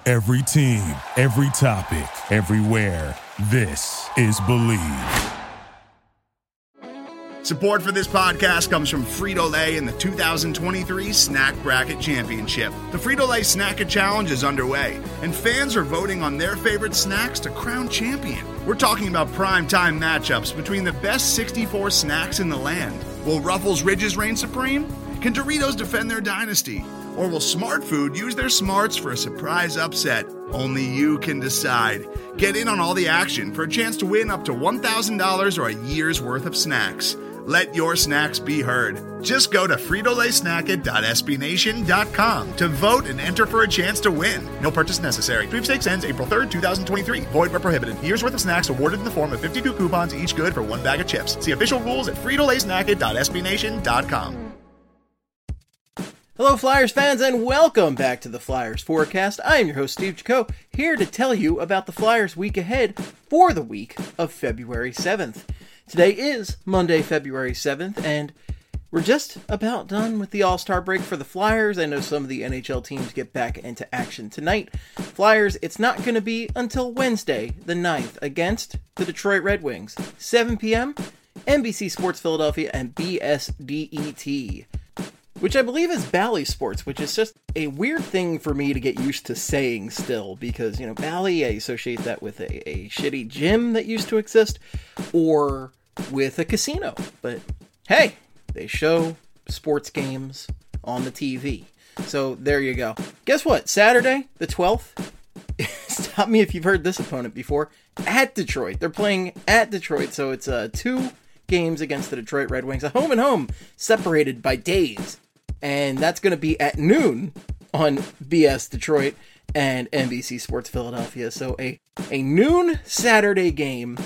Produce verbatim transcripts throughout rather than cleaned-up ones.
Every team, every topic, everywhere. This is Believe. Support for this podcast comes from Frito-Lay and the two thousand twenty-three Snack Bracket Championship. The Frito-Lay Snack-A Challenge is underway, and fans are voting on their favorite snacks to crown champion. We're talking about prime-time matchups between the best sixty-four snacks in the land. Will Ruffles Ridges reign supreme? Can Doritos defend their dynasty? Or will Smart Food use their smarts for a surprise upset? Only you can decide. Get in on all the action for a chance to win up to one thousand dollars or a year's worth of snacks. Let your snacks be heard. Just go to Frito Lay Snack It dot S B Nation dot com to vote and enter for a chance to win. No purchase necessary. Sweepstakes ends April third, twenty twenty-three. Void where prohibited. Year's worth of snacks awarded in the form of fifty-two coupons, each good for one bag of chips. See official rules at Frito Lay Snack It dot S B Nation dot com. Hello, Flyers fans, and welcome back to the Flyers Forecast. I am your host, Steve Jaco, here to tell you about the Flyers week ahead for the week of February seventh. Today is Monday, February seventh, and we're just about done with the All-Star break for the Flyers. I know some of the N H L teams get back into action tonight. Flyers, it's not going to be until Wednesday, the ninth, against the Detroit Red Wings. seven p.m., N B C Sports Philadelphia and B S D E T. Which I believe is Bally Sports, which is just a weird thing for me to get used to saying still, because, you know, Bally, I associate that with a, a shitty gym that used to exist, or with a casino. But hey, they show sports games on the T V. So there you go. Guess what? Saturday, the twelfth, stop me if you've heard this opponent before, at Detroit. They're playing at Detroit, so it's uh, two games against the Detroit Red Wings, a home and home, separated by days. And that's going to be at noon on B S Detroit and N B C Sports Philadelphia. So a, a noon Saturday game.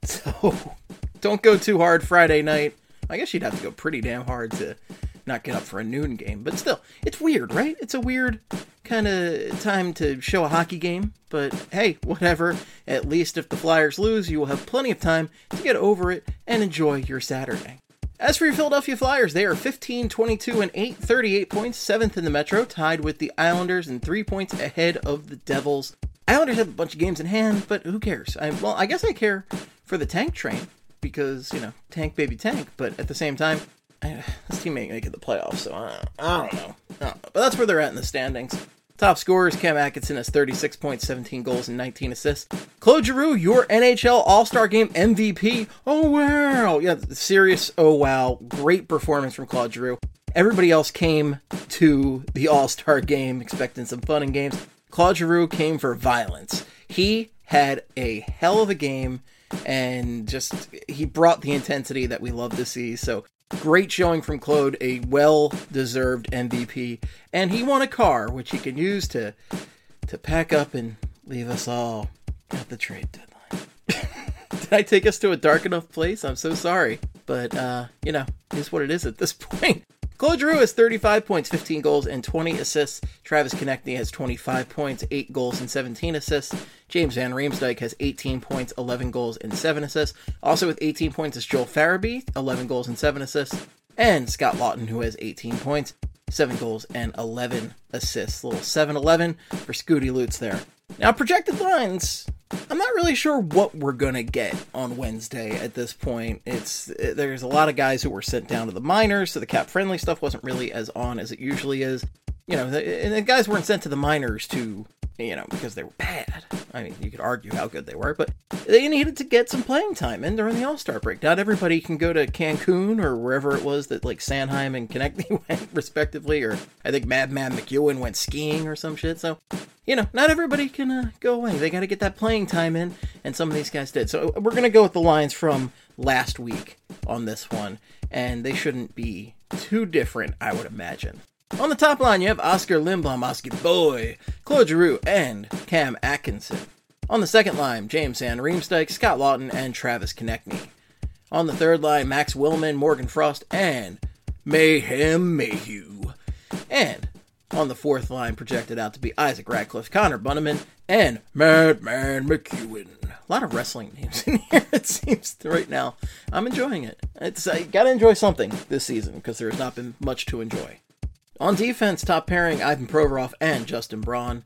So don't go too hard Friday night. I guess you'd have to go pretty damn hard to not get up for a noon game. But still, it's weird, right? It's a weird kind of time to show a hockey game. But hey, whatever. At least if the Flyers lose, you will have plenty of time to get over it and enjoy your Saturday. As for your Philadelphia Flyers, they are fifteen, twenty-two, and eight, thirty-eight points, seventh in the Metro, tied with the Islanders and three points ahead of the Devils. Islanders have a bunch of games in hand, but who cares? I, well, I guess I care for the tank train, because, you know, tank baby tank, but at the same time, I, this team ain't making the playoffs, so I, I don't know. I don't know. But that's where they're at in the standings. Top scorers, Cam Atkinson has thirty-six points, seventeen goals, and nineteen assists. Claude Giroux, your N H L All-Star Game M V P. Oh, wow. Yeah, serious, oh, wow. Great performance from Claude Giroux. Everybody else came to the All-Star Game expecting some fun and games. Claude Giroux came for violence. He had a hell of a game, and just, he brought the intensity that we love to see, so great showing from Claude, a well-deserved M V P, and he won a car, which he can use to to pack up and leave us all at the trade deadline. Did I take us to a dark enough place? I'm so sorry, but, uh, you know, it's what it is at this point. Claude Giroux has thirty-five points, fifteen goals, and twenty assists. Travis Konecny has twenty-five points, eight goals, and seventeen assists. James Van Riemsdyk has eighteen points, eleven goals, and seven assists. Also with eighteen points is Joel Farabee, eleven goals and seven assists. And Scott Laughton, who has eighteen points, seven goals, and eleven assists. A little seven eleven for Scooty Lutz there. Now, projected lines, I'm not really sure what we're going to get on Wednesday at this point. It's There's a lot of guys who were sent down to the minors, so the cap-friendly stuff wasn't really as on as it usually is. You know, the, and the guys weren't sent to the minors to, you know, because they were bad. I mean, you could argue how good they were, but they needed to get some playing time in during the All-Star break. Not everybody can go to Cancun or wherever it was that, like, Sanheim and Konecny went, respectively, or I think Madman McEwen went skiing or some shit, so, you know, not everybody can uh, go away. They got to get that playing time in, and some of these guys did. So we're going to go with the lines from last week on this one, and they shouldn't be too different, I would imagine. On the top line, you have Oscar Lindblom, Oscar Boy, Claude Giroux, and Cam Atkinson. On the second line, James Van Riemsdyk, Scott Laughton, and Travis Konecny. On the third line, Max Willman, Morgan Frost, and Mayhem Mayhew. And on the fourth line, projected out to be Isaac Ratcliffe, Connor Bunnaman, and Madman McEwen. A lot of wrestling names in here, it seems, right now. I'm enjoying it. It's I gotta enjoy something this season, because there has not been much to enjoy. On defense, top pairing, Ivan Provorov and Justin Braun.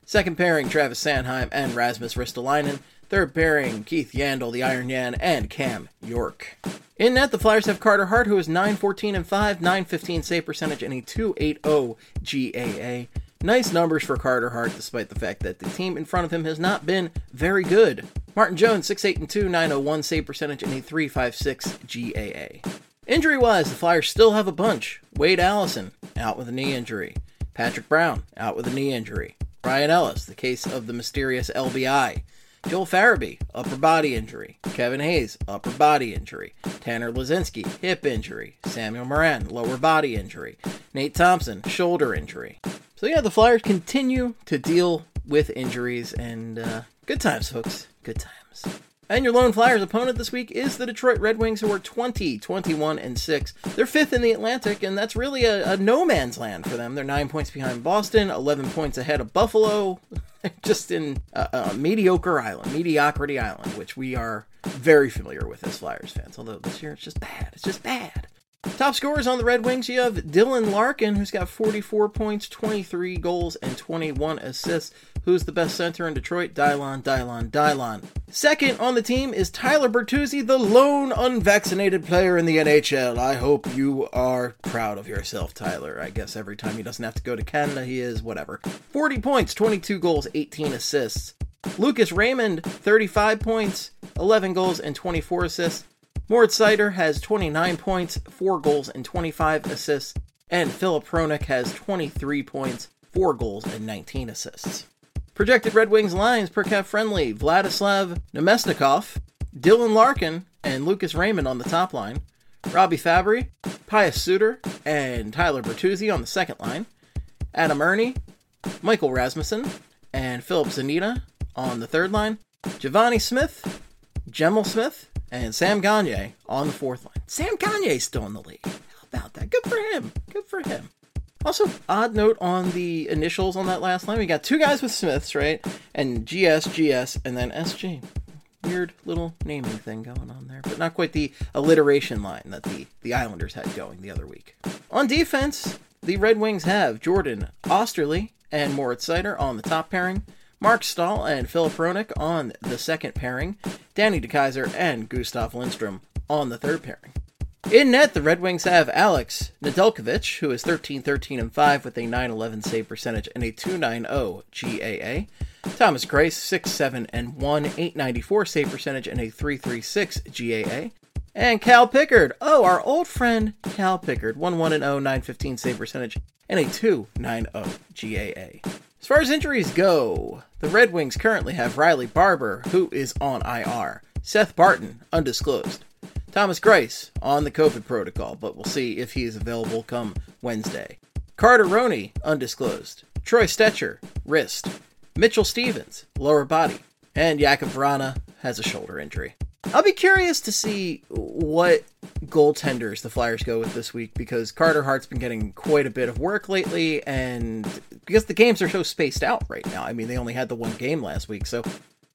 Second pairing, Travis Sanheim and Rasmus Ristolainen. Third pairing, Keith Yandel, the Iron Yan, and Cam York. In net, the Flyers have Carter Hart, who is nine fourteen and five, nine fifteen save percentage, and a two eighty G A A. Nice numbers for Carter Hart, despite the fact that the team in front of him has not been very good. Martin Jones, six eight and two, nine oh one save percentage, and a three fifty-six G A A. Injury-wise, the Flyers still have a bunch. Wade Allison, out with a knee injury. Patrick Brown, out with a knee injury. Ryan Ellis, the case of the mysterious L B I. Joel Farabee, upper body injury. Kevin Hayes, upper body injury. Tanner Lazinski, hip injury. Samuel Morin, lower body injury. Nate Thompson, shoulder injury. So yeah, the Flyers continue to deal with injuries, and uh, good times, folks. Good times. And your lone Flyers opponent this week is the Detroit Red Wings, who are twenty, twenty-one, and six. They're fifth in the Atlantic, and that's really a, a no man's land for them. They're nine points behind Boston, eleven points ahead of Buffalo. Just in a, a mediocre island, mediocrity island, which we are very familiar with as Flyers fans. Although this year it's just bad. It's just bad. Top scorers on the Red Wings, you have Dylan Larkin, who's got forty-four points, twenty-three goals, and twenty-one assists. Who's the best center in Detroit? Dylon, Dylon, Dylon. Second on the team is Tyler Bertuzzi, the lone unvaccinated player in the N H L. I hope you are proud of yourself, Tyler. I guess every time he doesn't have to go to Canada, he is, whatever. forty points, twenty-two goals, eighteen assists. Lucas Raymond, thirty-five points, eleven goals, and twenty-four assists. Moritz Seider has twenty-nine points, four goals, and twenty-five assists. And Filip Hronek has twenty-three points, four goals, and nineteen assists. Projected Red Wings lines per cap friendly: Vladislav Nemesnikov, Dylan Larkin, and Lucas Raymond on the top line. Robbie Fabry, Pius Suter, and Tyler Bertuzzi on the second line. Adam Ernie, Michael Rasmussen, and Philip Zanita on the third line. Giovanni Smith, Gemel Smith, and Sam Gagner on the fourth line. Sam Gagner's still in the league. How about that? Good for him. Good for him. Also, odd note on the initials on that last line. We got two guys with Smiths, right? And G S, G S, and then S G. Weird little naming thing going on there, but not quite the alliteration line that the, the Islanders had going the other week. On defense, the Red Wings have Jordan Osterley and Moritz Seider on the top pairing, Mark Stahl and Filip Hronek on the second pairing, Danny DeKeyser and Gustav Lindstrom on the third pairing. In net, the Red Wings have Alex Nedeljkovic, who is thirteen, thirteen, and five with a nine eleven save percentage and a two ninety G A A. Thomas Greiss, six seven and one, eight ninety-four save percentage and a three thirty-six G A A. And Cal Pickard, oh, our old friend Cal Pickard, one one and oh, nine fifteen save percentage and a two ninety G A A. As far as injuries go, the Red Wings currently have Riley Barber, who is on I R. Seth Barton, undisclosed. Thomas Greiss on the COVID protocol, but we'll see if he is available come Wednesday. Carter Roney, undisclosed. Troy Stetcher, wrist. Mitchell Stevens, lower body. And Jakub Vrana has a shoulder injury. I'll be curious to see what goaltenders the Flyers go with this week, because Carter Hart's been getting quite a bit of work lately, and because the games are so spaced out right now. I mean, they only had the one game last week, so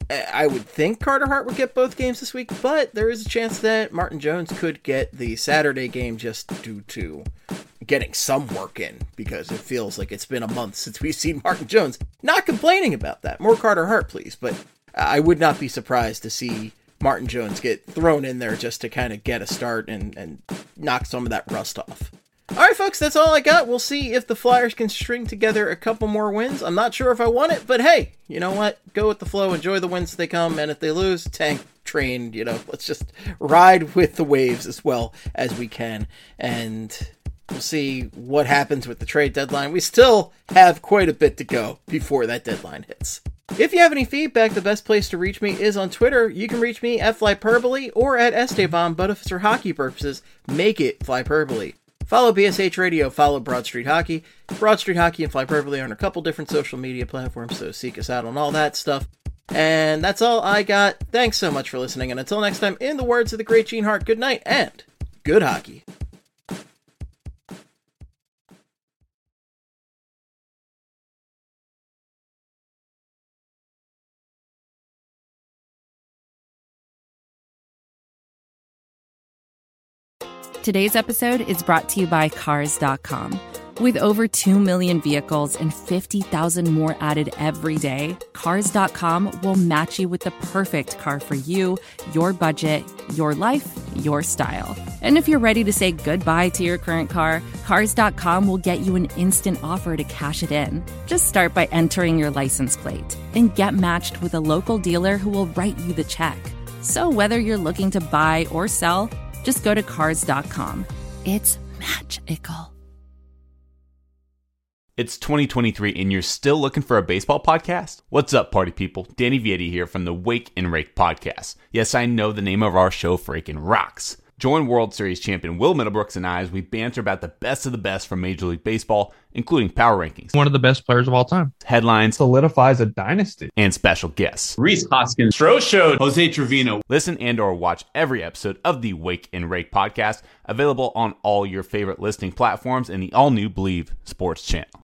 I would think Carter Hart would get both games this week, but there is a chance that Martin Jones could get the Saturday game just due to getting some work in, because it feels like it's been a month since we've seen Martin Jones. Not complaining about that. More Carter Hart, please, but I would not be surprised to see Martin Jones get thrown in there just to kind of get a start and, and knock some of that rust off. All right, folks, that's all I got. We'll see if the Flyers can string together a couple more wins. I'm not sure if I want it, but hey, you know what? Go with the flow, enjoy the wins as they come, and if they lose, tank, train, you know, let's just ride with the waves as well as we can, and we'll see what happens with the trade deadline. We still have quite a bit to go before that deadline hits. If you have any feedback, the best place to reach me is on Twitter. You can reach me at Flyperbole or at Esteban, but if it's for hockey purposes, make it Flyperbole. Follow B S H Radio, follow Broad Street Hockey. Broad Street Hockey and Flyperbole are on a couple different social media platforms, so seek us out on all that stuff. And that's all I got. Thanks so much for listening, and until next time, in the words of the great Gene Hart, good night and good hockey. Today's episode is brought to you by Cars dot com. With over two million vehicles and fifty thousand more added every day, Cars dot com will match you with the perfect car for you, your budget, your life, your style. And if you're ready to say goodbye to your current car, Cars dot com will get you an instant offer to cash it in. Just start by entering your license plate and get matched with a local dealer who will write you the check. So whether you're looking to buy or sell, just go to Cars dot com. It's magical. It's twenty twenty-three and you're still looking for a baseball podcast? What's up, party people? Danny Vietti here from the Wake and Rake podcast. Yes, I know the name of our show freaking rocks. Join World Series champion Will Middlebrooks and I as we banter about the best of the best from Major League Baseball, including power rankings, one of the best players of all time, headlines, solidifies a dynasty, and special guests. Rhys Hoskins, Stro Show, Jose Trevino. Listen and or watch every episode of the Wake and Rake podcast, available on all your favorite listening platforms and the all-new Believe Sports channel.